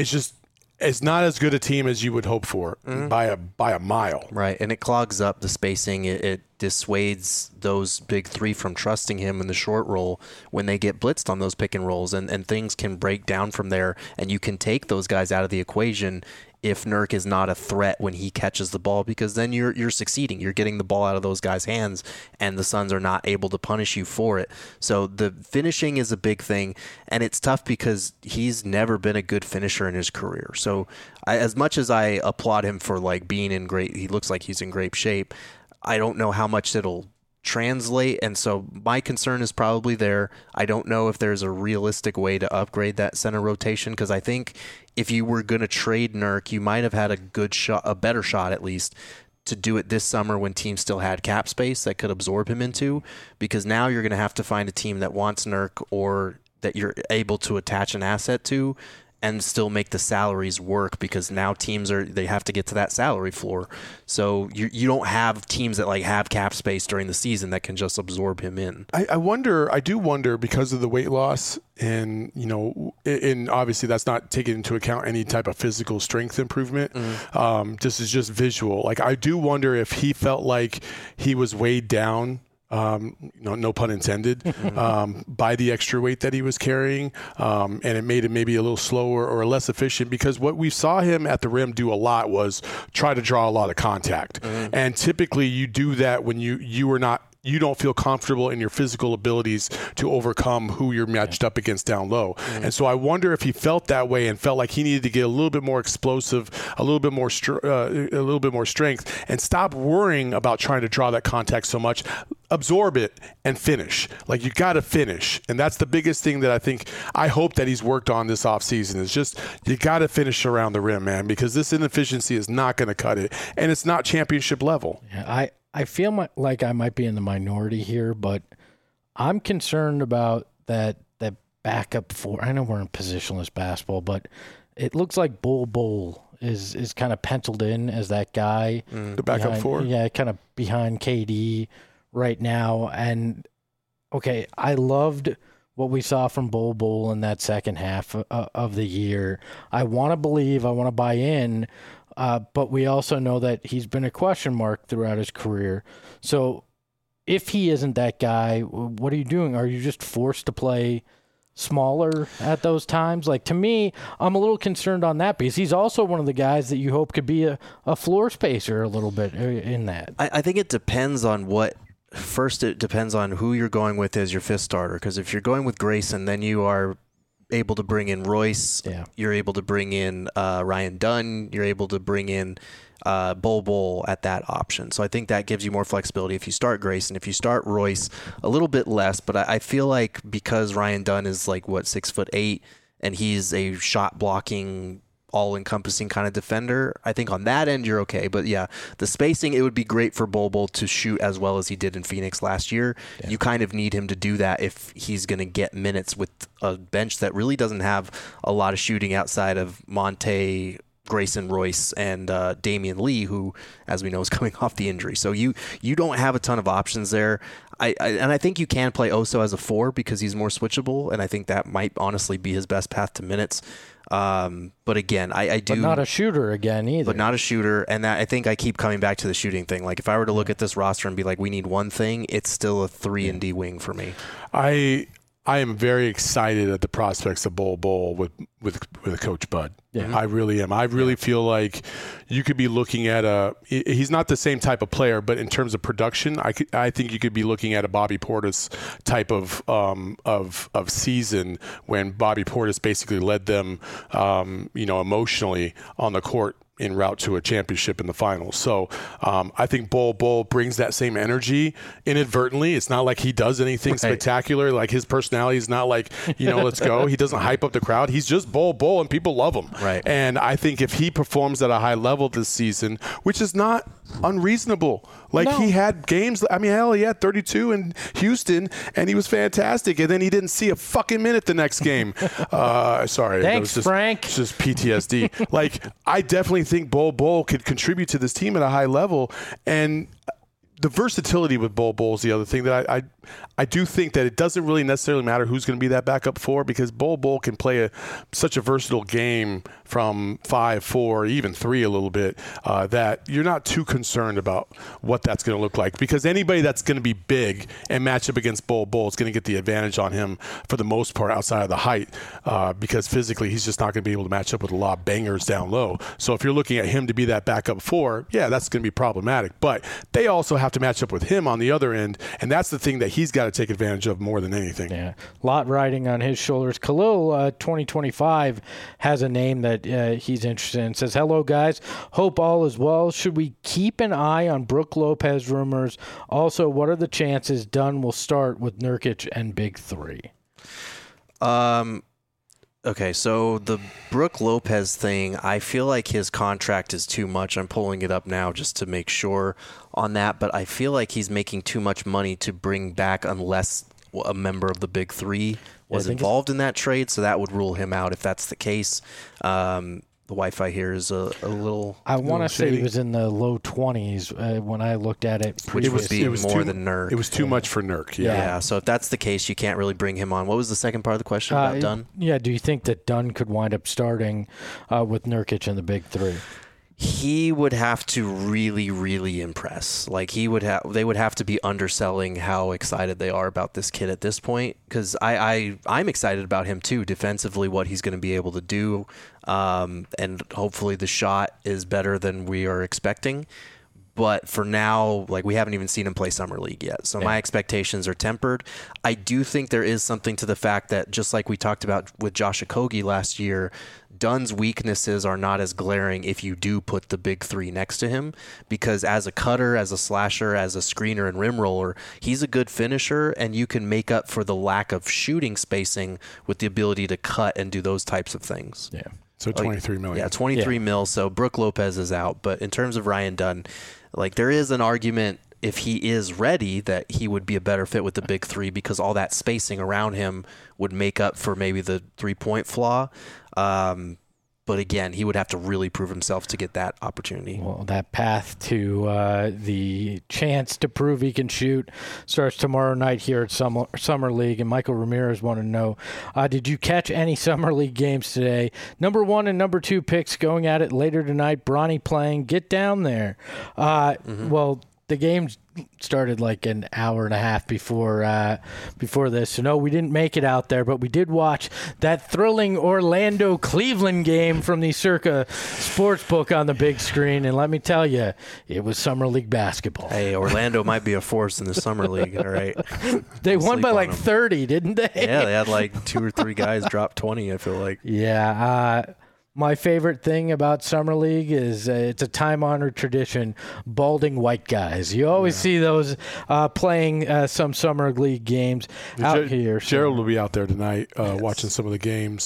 it's not as good a team as you would hope for by a mile. Right, and it clogs up the spacing. It dissuades those big three from trusting him in the short roll when they get blitzed on those pick and rolls, and things can break down from there, and you can take those guys out of the equation if Nurk is not a threat when he catches the ball, because then you're succeeding. You're getting the ball out of those guys' hands, and the Suns are not able to punish you for it. So the finishing is a big thing, and it's tough because he's never been a good finisher in his career. So as much as I applaud him for being in he looks like he's in great shape, I don't know how much it'll translate, and so my concern is probably there. I don't know if there's a realistic way to upgrade that center rotation, because I think if you were going to trade Nurk, you might have had a better shot at least to do it this summer when teams still had cap space that could absorb him into, because now you're going to have to find a team that wants Nurk or that you're able to attach an asset to and still make the salaries work, because now teams they have to get to that salary floor. So you don't have teams that have cap space during the season that can just absorb him in. I do wonder because of the weight loss, and and obviously that's not taking into account any type of physical strength improvement. This is just visual. I do wonder if he felt like he was weighed down, no pun intended, by the extra weight that he was carrying, and it made him maybe a little slower or less efficient, because what we saw him at the rim do a lot was try to draw a lot of contact. And typically you do that when you don't feel comfortable in your physical abilities to overcome who you're matched up against down low. And so I wonder if he felt that way and felt like he needed to get a little bit more explosive, a little bit more strength, and stop worrying about trying to draw that contact so much. Absorb it and finish. You got to finish. And that's the biggest thing that I hope that he's worked on this offseason, is just you got to finish around the rim, man, because this inefficiency is not going to cut it. And it's not championship level. Yeah, I feel like I might be in the minority here, but I'm concerned about that backup four. I know we're in positionless basketball, but it looks like Bol is kind of penciled in as that guy. The backup four? Yeah, kind of behind KD right now. And, okay, I loved what we saw from Bol in that second half of the year. I want to believe, I want to buy in, but we also know that he's been a question mark throughout his career. So if he isn't that guy, what are you doing? Are you just forced to play smaller at those times? Like, to me, I'm a little concerned on that because he's also one of the guys that you hope could be a floor spacer a little bit in that. I think it depends on what. First, it depends on who you're going with as your fifth starter. Because if you're going with Grayson, then you are able to bring in Royce. Yeah. You're able to bring in Ryan Dunn. You're able to bring in Bol at that option. So I think that gives you more flexibility if you start Grayson. If you start Royce, a little bit less. But I feel like because Ryan Dunn is 6'8", and he's a shot blocking, all-encompassing kind of defender, I think on that end you're okay. But yeah, the spacing, it would be great for Bol to shoot as well as he did in Phoenix last year. Yeah. You kind of need him to do that if he's going to get minutes with a bench that really doesn't have a lot of shooting outside of Monte, Grayson, Royce, and Damian Lee, who, as we know, is coming off the injury. So you don't have a ton of options there. I think you can play Oso as a 4 because he's more switchable, and I think that might honestly be his best path to minutes. But again, I do. But not a shooter again either. But not a shooter, and I think I keep coming back to the shooting thing. Like if I were to look at this roster and be like, we need one thing, it's still a 3-and-D wing for me. I am very excited at the prospects of Bol with Coach Bud. Yeah. I really am. I really feel like you could be looking at he's not the same type of player, but in terms of production, I think you could be looking at a Bobby Portis type of season when Bobby Portis basically led them, emotionally on the court en route to a championship in the finals. So I think Bol brings that same energy inadvertently. It's not like he does anything spectacular. Like his personality is not like, let's go. He doesn't hype up the crowd. He's just Bol and people love him. Right. And I think if he performs at a high level this season, which is not unreasonable. He had games. I mean, hell, he had 32 in Houston, and he was fantastic. And then he didn't see a fucking minute the next game. Sorry. Thanks, Frank. It's just PTSD. I definitely think Bol could contribute to this team at a high level. And the versatility with Bol is the other thing that I do think that it doesn't really necessarily matter who's going to be that backup 4 because Bol can play such a versatile game from 5, 4, even 3 a little bit that you're not too concerned about what that's going to look like because anybody that's going to be big and match up against Bol is going to get the advantage on him for the most part outside of the height because physically he's just not going to be able to match up with a lot of bangers down low. So if you're looking at him to be that backup 4, yeah, that's going to be problematic. But they also have to match up with him on the other end, and that's the thing that he's got to take advantage of more than anything. Yeah, a lot riding on his shoulders. Khalil, 2025, has a name that he's interested in. Says, hello, guys. Hope all is well. Should we keep an eye on Brook Lopez rumors? Also, what are the chances Dunn will start with Nurkic and Big Three? Okay, so the Brook Lopez thing, I feel like his contract is too much. I'm pulling it up now just to make sure on that, but I feel like he's making too much money to bring back unless a member of the Big Three was involved in that trade, so that would rule him out if that's the case. The Wi-Fi here is a little. I want to say he was in the low 20s when I looked at it. Which would be more than Nurk. It was too much for Nurk. Yeah. So if that's the case, you can't really bring him on. What was the second part of the question about Dunn? Yeah. Do you think that Dunn could wind up starting with Nurkic in the Big Three? He would have to really, really impress. They would have to be underselling how excited they are about this kid at this point. Because I'm excited about him too, defensively, what he's going to be able to do, and hopefully the shot is better than we are expecting. But for now, we haven't even seen him play Summer League yet. So my expectations are tempered. I do think there is something to the fact that, just like we talked about with Josh Okogie last year, Dunn's weaknesses are not as glaring if you do put the Big Three next to him, because as a cutter, as a slasher, as a screener and rim roller, he's a good finisher, and you can make up for the lack of shooting spacing with the ability to cut and do those types of things. Yeah. So $23 million. Yeah, $23 million. So Brook Lopez is out. But in terms of Ryan Dunn, there is an argument, if he is ready, that he would be a better fit with the Big Three because all that spacing around him would make up for maybe the 3-point flaw. But again, he would have to really prove himself to get that opportunity. Well, that path to the chance to prove he can shoot starts tomorrow night here at Summer League. And Michael Ramirez wanted to know, did you catch any Summer League games today? Number 1 and number 2 picks going at it later tonight. Bronny playing. Get down there. Well, the games started like an hour and a half before this. So no, we didn't make it out there, but we did watch that thrilling Orlando-Cleveland game from the Circa Sportsbook on the big screen. And let me tell you, it was Summer League basketball. Hey, Orlando might be a force in the Summer League, all right? They won by like them. 30, didn't they? Yeah, they had like 2 or 3 guys drop 20, I feel like. Yeah. My favorite thing about Summer League is it's a time-honored tradition, balding white guys. You always see those playing some Summer League games out here. So. Gerald will be out there tonight watching some of the games.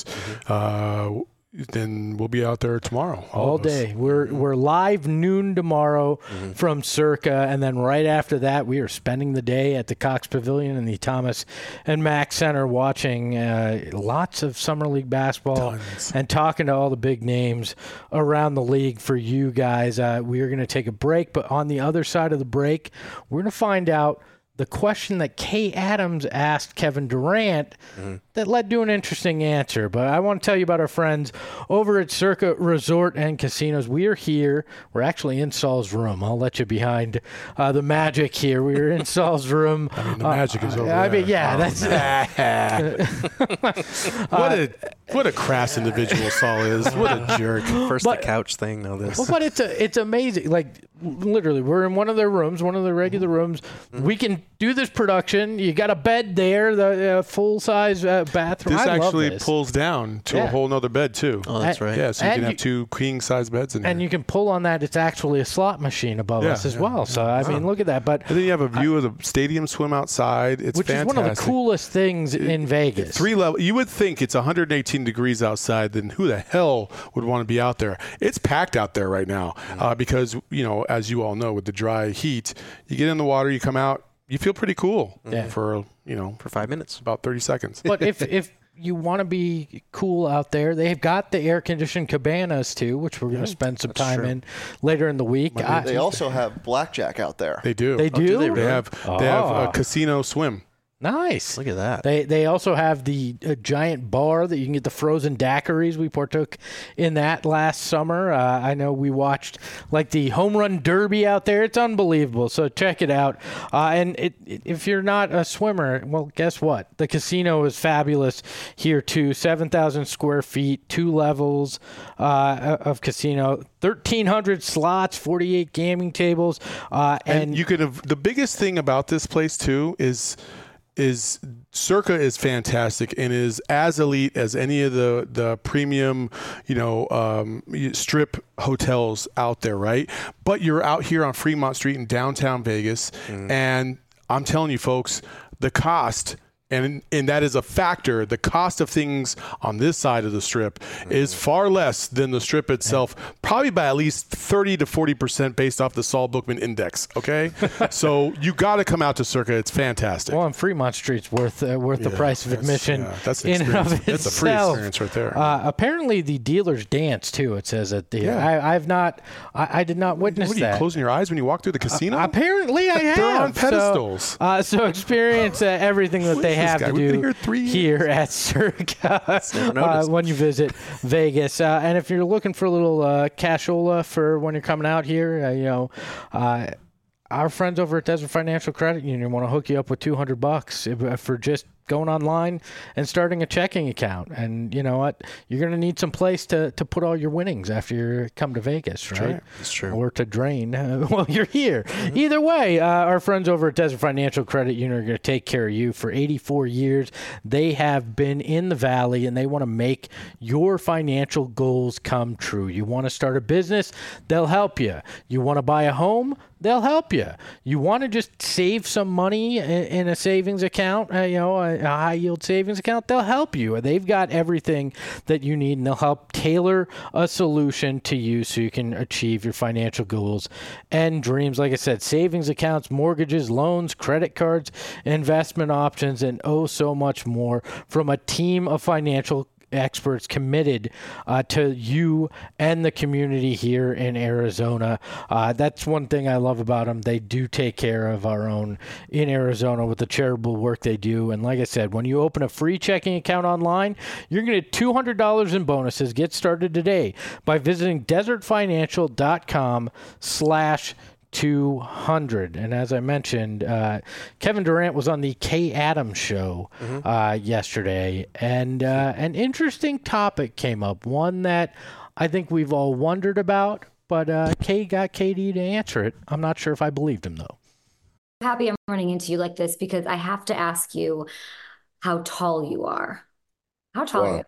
Then we'll be out there tomorrow. All day. We're live noon tomorrow from Circa, and then right after that, we are spending the day at the Cox Pavilion in the Thomas and Mack Center watching lots of Summer League basketball and talking to all the big names around the league for you guys. We are going to take a break, but on the other side of the break, we're going to find out the question that Kay Adams asked Kevin Durant that led to an interesting answer. But I want to tell you about our friends over at Circa Resort and Casinos. We are here. We're actually in Saul's room. I'll let you behind the magic here. We're in Saul's room. I mean, the magic is over there. I mean, yeah, What a crass individual Saul is. What a jerk. First the couch thing, now this. Well, but it's amazing. Like, literally, we're in one of their rooms, one of the regular rooms. We can do this production. You got a bed there, the full-size bathroom. This I love actually this. pulls down to a whole nother bed, too. Oh, that's right. Yeah, so you And can have 2 king-size beds in there. And you can pull on that. It's actually a slot machine above us as well. So, I mean, look at that. But And then you have a view of the stadium swim outside. It's which fantastic. is one of the coolest things in Vegas. 3 level. You would think it's 118 degrees outside. Then who the hell would want to be out there? It's packed out there right now because, as you all know, with the dry heat, you get in the water, you come out, you feel pretty cool for 5 minutes. about 30 seconds. But if you want to be cool out there, they've got the air-conditioned cabanas, too, which we're going to spend some time in later in the week. They also have blackjack out there. They do. They do? do they They really? have a casino swim. Nice. Look at that. They also have the giant bar that you can get the frozen daiquiris. We partook in that last summer. I know we watched like the home run derby out there. It's unbelievable. So check it out. And if you're not a swimmer, well, guess what? The casino is fabulous here too. 7,000 square feet, 2 levels of casino, 1,300 slots, 48 gaming tables, And you could have the biggest thing about this place too is Circa is fantastic and is as elite as any of the premium, strip hotels out there, right? But you're out here on Fremont Street in downtown Vegas, and I'm telling you, folks, the cost. And that is a factor. The cost of things on this side of the strip is far less than the strip itself, probably by at least 30 to 40% based off the Saul Bookman Index. Okay, so you got to come out to Circa. It's fantastic. well, and Fremont Street's worth the price of admission. That's an in and of experience. That's a free itself. experience right there. Apparently, the dealers dance too. It says at the. I did not witness What are you that. closing your eyes when you walk through the casino? Apparently, I have. They're on pedestals. So experience everything that they this have guy? to We've been do here 3 years. here at Circa noticed. when you visit Vegas. And if you're looking for a little cashola for when you're coming out here, our friends over at Desert Financial Credit Union want to hook you up with $200 for just going online and starting a checking account. And you know what? You're going to need some place to put all your winnings after you come to Vegas, right? That's true. Or to drain while you're here. Either way, our friends over at Desert Financial Credit Union are going to take care of you. For 84 years, they have been in the Valley, and they want to make your financial goals come true. You want to start a business? They'll help you. You want to buy a home? They'll help you. You want to just save some money in a savings account, a high-yield savings account? They'll help you. They've got everything that you need, and they'll help tailor a solution to you so you can achieve your financial goals and dreams. Like I said, savings accounts, mortgages, loans, credit cards, investment options, and so much more from a team of financial experts committed to you and the community here in Arizona. That's one thing I love about them. They do take care of our own in Arizona with the charitable work they do. And like I said, when you open a free checking account online, you're going to get $200 in bonuses. Get started today by visiting desertfinancial.com/ 200. And as I mentioned, Kevin Durant was on the Kay Adams show yesterday, and an interesting topic came up, one that I think we've all wondered about, but Kay got KD to answer it. I'm not sure if I believed him, though. Happy I'm running into you like this because I have to ask you how tall you are. How tall are you?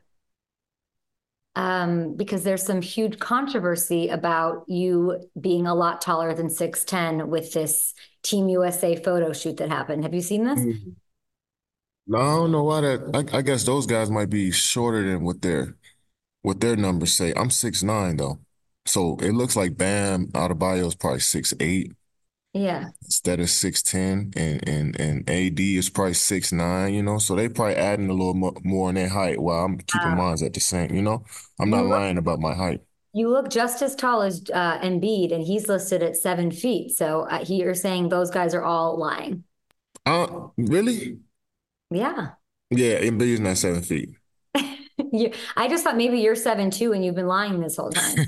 Because there's some huge controversy about you being a lot taller than 6'10" with this Team USA photo shoot that happened. Have you seen this? No, I don't know why that. I guess those guys might be shorter than what their numbers say. I'm 6'9" though, so it looks like Bam Adebayo is probably 6'8". Yeah. Instead of 6'10", and AD is probably 6'9", so they probably adding a little more in their height while I'm keeping mine at the same, I'm not lying about my height. You look just as tall as Embiid, and he's listed at 7 feet. So you're saying those guys are all lying. Really? Yeah. Yeah, Embiid's not 7 feet. I just thought maybe you're 7'2" and you've been lying this whole time.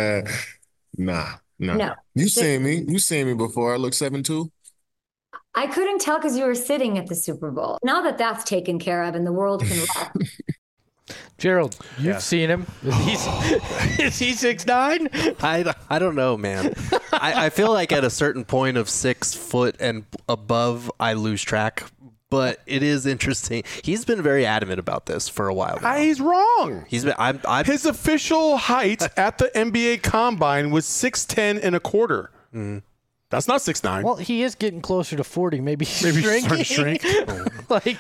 Nah. No. You seen me before. I look 7'2". I couldn't tell because you were sitting at the Super Bowl. Now that that's taken care of and the world can rest. Gerald, you've seen him. Is he 6'9"? I don't know, man. I feel like at a certain point of 6 foot and above, I lose track. But it is interesting. He's been very adamant about this for a while now. He's wrong. He's been. His official height at the NBA Combine was 6'10" and a quarter. That's not 6'9". Well, he is getting closer to 40. Maybe shrinking. Maybe starting to shrink. Like,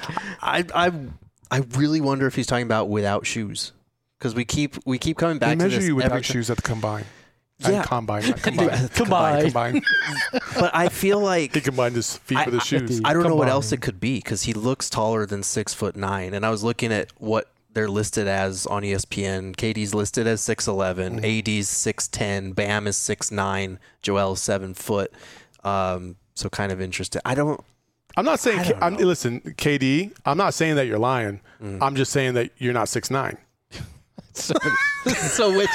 I really wonder if he's talking about without shoes, because we keep coming back to this. They measure you without shoes at the Combine. Yeah. Combine. Combine. But I feel like he combined his feet with his shoes. I don't know what else it could be, because he looks taller than 6'9", and I was looking at what they're listed as on ESPN. KD's listed as 6'11", AD's 6'10", Bam is 6'9", Joel's 7 foot. So kind of interesting. I'm not saying. Listen, KD. I'm not saying that you're lying. I'm just saying that you're not 6'9". So which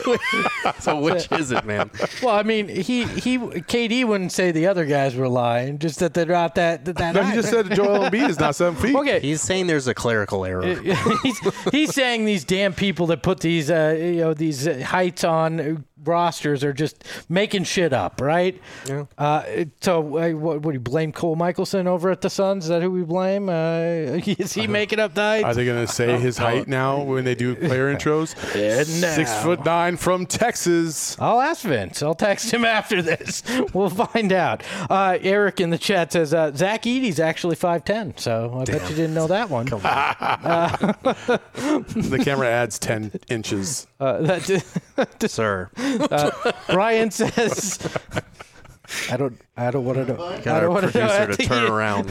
is it, man? Well, I mean, KD wouldn't say the other guys were lying, just that they're not that No, he just said Joel Embiid is not 7 feet. Okay, he's saying there's a clerical error. he's saying these damn people that put these these heights on rosters are just making shit up, right? Yeah. So what do you blame Cole Michelson over at the Suns? Is that who we blame? Is he making up the heights? Are they going to say his height now when they do player intros? 6'9" from Texas. I'll ask Vince. I'll text him after this. We'll find out. Eric in the chat says Zach Edey's actually 5'10", so I bet you didn't know that one. The camera adds 10 inches. Sir. Brian says, I don't want to know. Got our producer to turn around.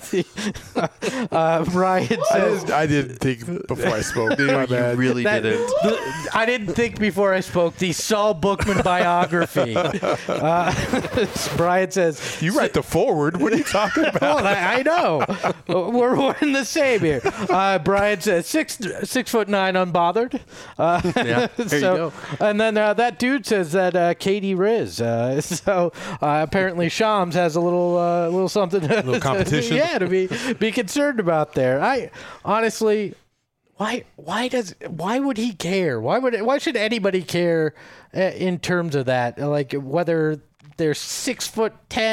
Brian says, I didn't think before I spoke. My bad. You really didn't. I didn't think before I spoke. The Saul Bookman biography. Brian says, You write the forward. What are you talking about? Well, I know. We're in the same here. Brian says 6'9" unbothered. Yeah, there you go. And then that dude says that KD Riz. So apparently Shams has a little something. A little competition. Yeah, to be concerned about there. I honestly, why would he care? Why should anybody care in terms of that? Like whether they're 6'10",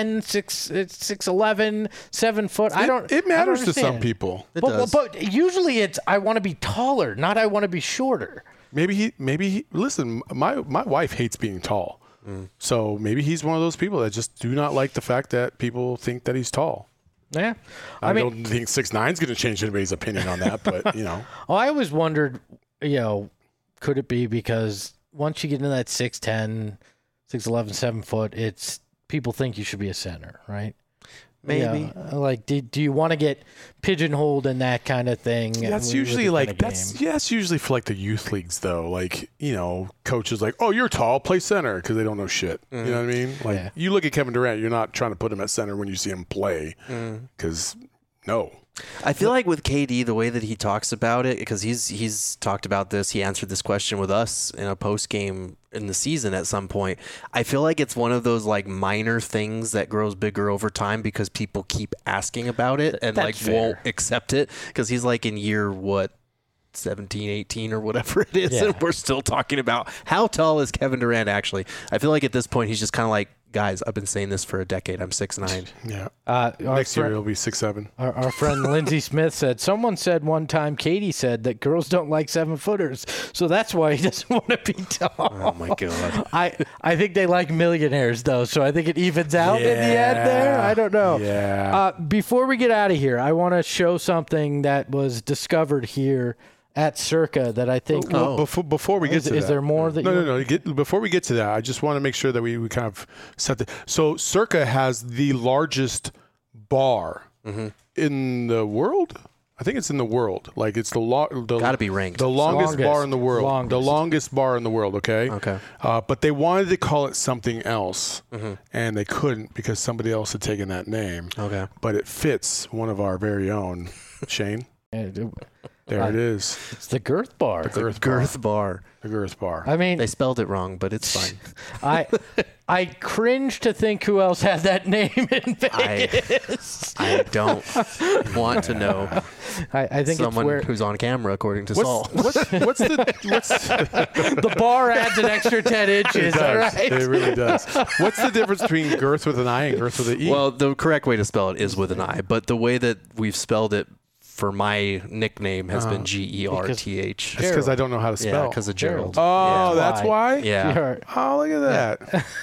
6'11", 7 foot. It matters to some people. But usually it's I want to be taller, not I want to be shorter. Maybe he. Listen, my wife hates being tall. So maybe he's one of those people that just do not like the fact that people think that he's tall. Yeah. I don't think 6'9" is going to change anybody's opinion on that, but, Well, I always wondered, could it be because once you get into that 6'10", 6'11", 7 foot, it's people think you should be a center, right? Maybe. Like, do you want to get pigeonholed in that kind of thing? That's usually that's usually for like the youth leagues though. Like, coaches like, oh, you're tall, play center because they don't know shit. You know what I mean? Like you look at Kevin Durant, you're not trying to put him at center when you see him play because no. I feel like with KD, the way that he talks about it, because he's talked about this, he answered this question with us in a post-game in the season at some point. I feel like it's one of those like minor things that grows bigger over time because people keep asking about it and That's like fair. won't accept it because he's like in year 17, 18 or whatever it is, Yeah. and we're still talking about how tall is Kevin Durant actually. I feel like at this point he's just kind of like, guys, I've been saying this for a decade. I'm 6'9". Yeah. Our Next year friend- he'll be 6'7". Our friend Lindsey Smith said, someone said one time, Katie said that girls don't like 7-footers. So that's why he doesn't want to be tall. Oh my god. I think they like millionaires, though. So I think it evens out in the end there. I don't know. Yeah. Before we get out of here, I want to show something that was discovered here at Circa that I think. Well, before we get to that. Is there more that No. Before we get to that, I just want to make sure that we kind of set the. So Circa has the largest bar in the world. I think it's in the world. Like it's Gotta be ranked. the longest bar in the world. Longest. The longest bar in the world. Okay. Okay. But they wanted to call it something else, and they couldn't because somebody else had taken that name. Okay. But it fits one of our very own, Shane. There it is. It's the girth bar. Girth bar. The girth bar. I mean, They spelled it wrong, but it's fine. I cringe to think who else had that name in I Vegas. I don't want to know I think someone it's where who's on camera, according to Saul. what's the bar adds an extra 10 inches. It All does. right. It really does. What's the difference between girth with an I and girth with an E? Well, the correct way to spell it is with an I, but the way that we've spelled it for my nickname has been Gerth. it's because I don't know how to spell. Yeah, because of Gerald. Oh, yeah. that's why? Yeah. Sure. Oh, look at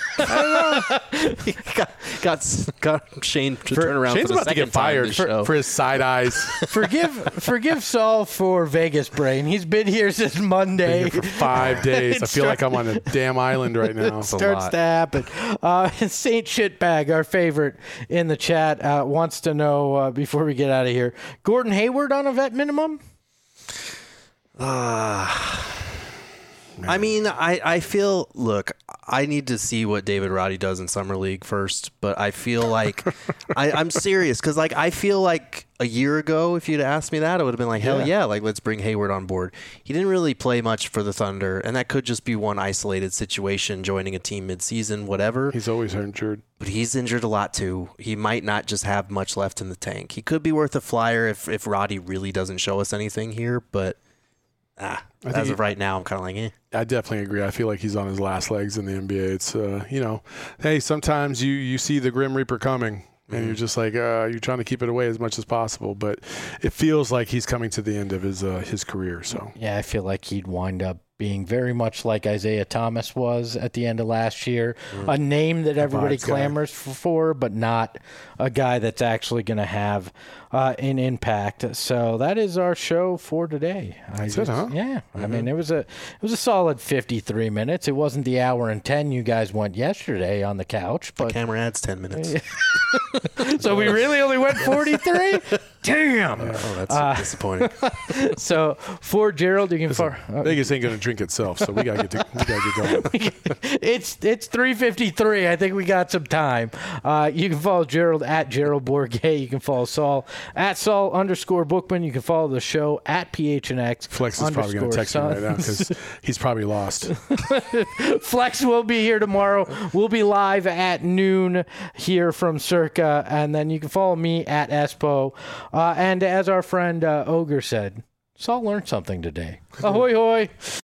that. got Shane to turn around Shane's for the about to second get fired time for his side eyes. Forgive Saul for Vegas brain. He's been here since Monday. Been here for 5 days. I feel like I'm on a damn island right now. Starts to happen. Saint Shitbag, our favorite in the chat, wants to know before we get out of here, Gordon Hayward on a vet minimum? I mean, I feel, look, I need to see what David Roddy does in Summer League first, but I feel like, I'm serious, because like, I feel like a year ago, if you'd asked me that, I would have been like, hell yeah, like, let's bring Hayward on board. He didn't really play much for the Thunder, and that could just be one isolated situation, joining a team midseason, whatever. He's always injured. But he's injured a lot too. He might not just have much left in the tank. He could be worth a flyer if Roddy really doesn't show us anything here, but as of right now, I'm kind of like, eh. I definitely agree. I feel like he's on his last legs in the NBA. It's, hey, sometimes you see the Grim Reaper coming, and you're just like, you're trying to keep it away as much as possible. But it feels like he's coming to the end of his career. So Yeah, I feel like he'd wind up being very much like Isaiah Thomas was at the end of last year, a name that everybody vibes guy. clamors for, but not a guy that's actually going to have an impact. So that is our show for today. That's it, huh? Yeah, I mean it was a solid 53 minutes. It wasn't the hour and 10 you guys went yesterday on the couch, but Camera adds 10 minutes. so we really only went 43. Damn. Oh, that's disappointing. So for Gerald, you can Vegas ain't going to drink itself. So we got to get going. It's 3:53. I think we got some time. You can follow Gerald at Gerald Bourget. You can follow Saul at Saul_Bookman. You can follow the show at PHNX. Flex is probably going to text me right now because he's probably lost. Flex will be here tomorrow. We'll be live at noon here from Circa. And then you can follow me at Espo. And as our friend Ogre said, Saul learned something today. Ahoy, hoy.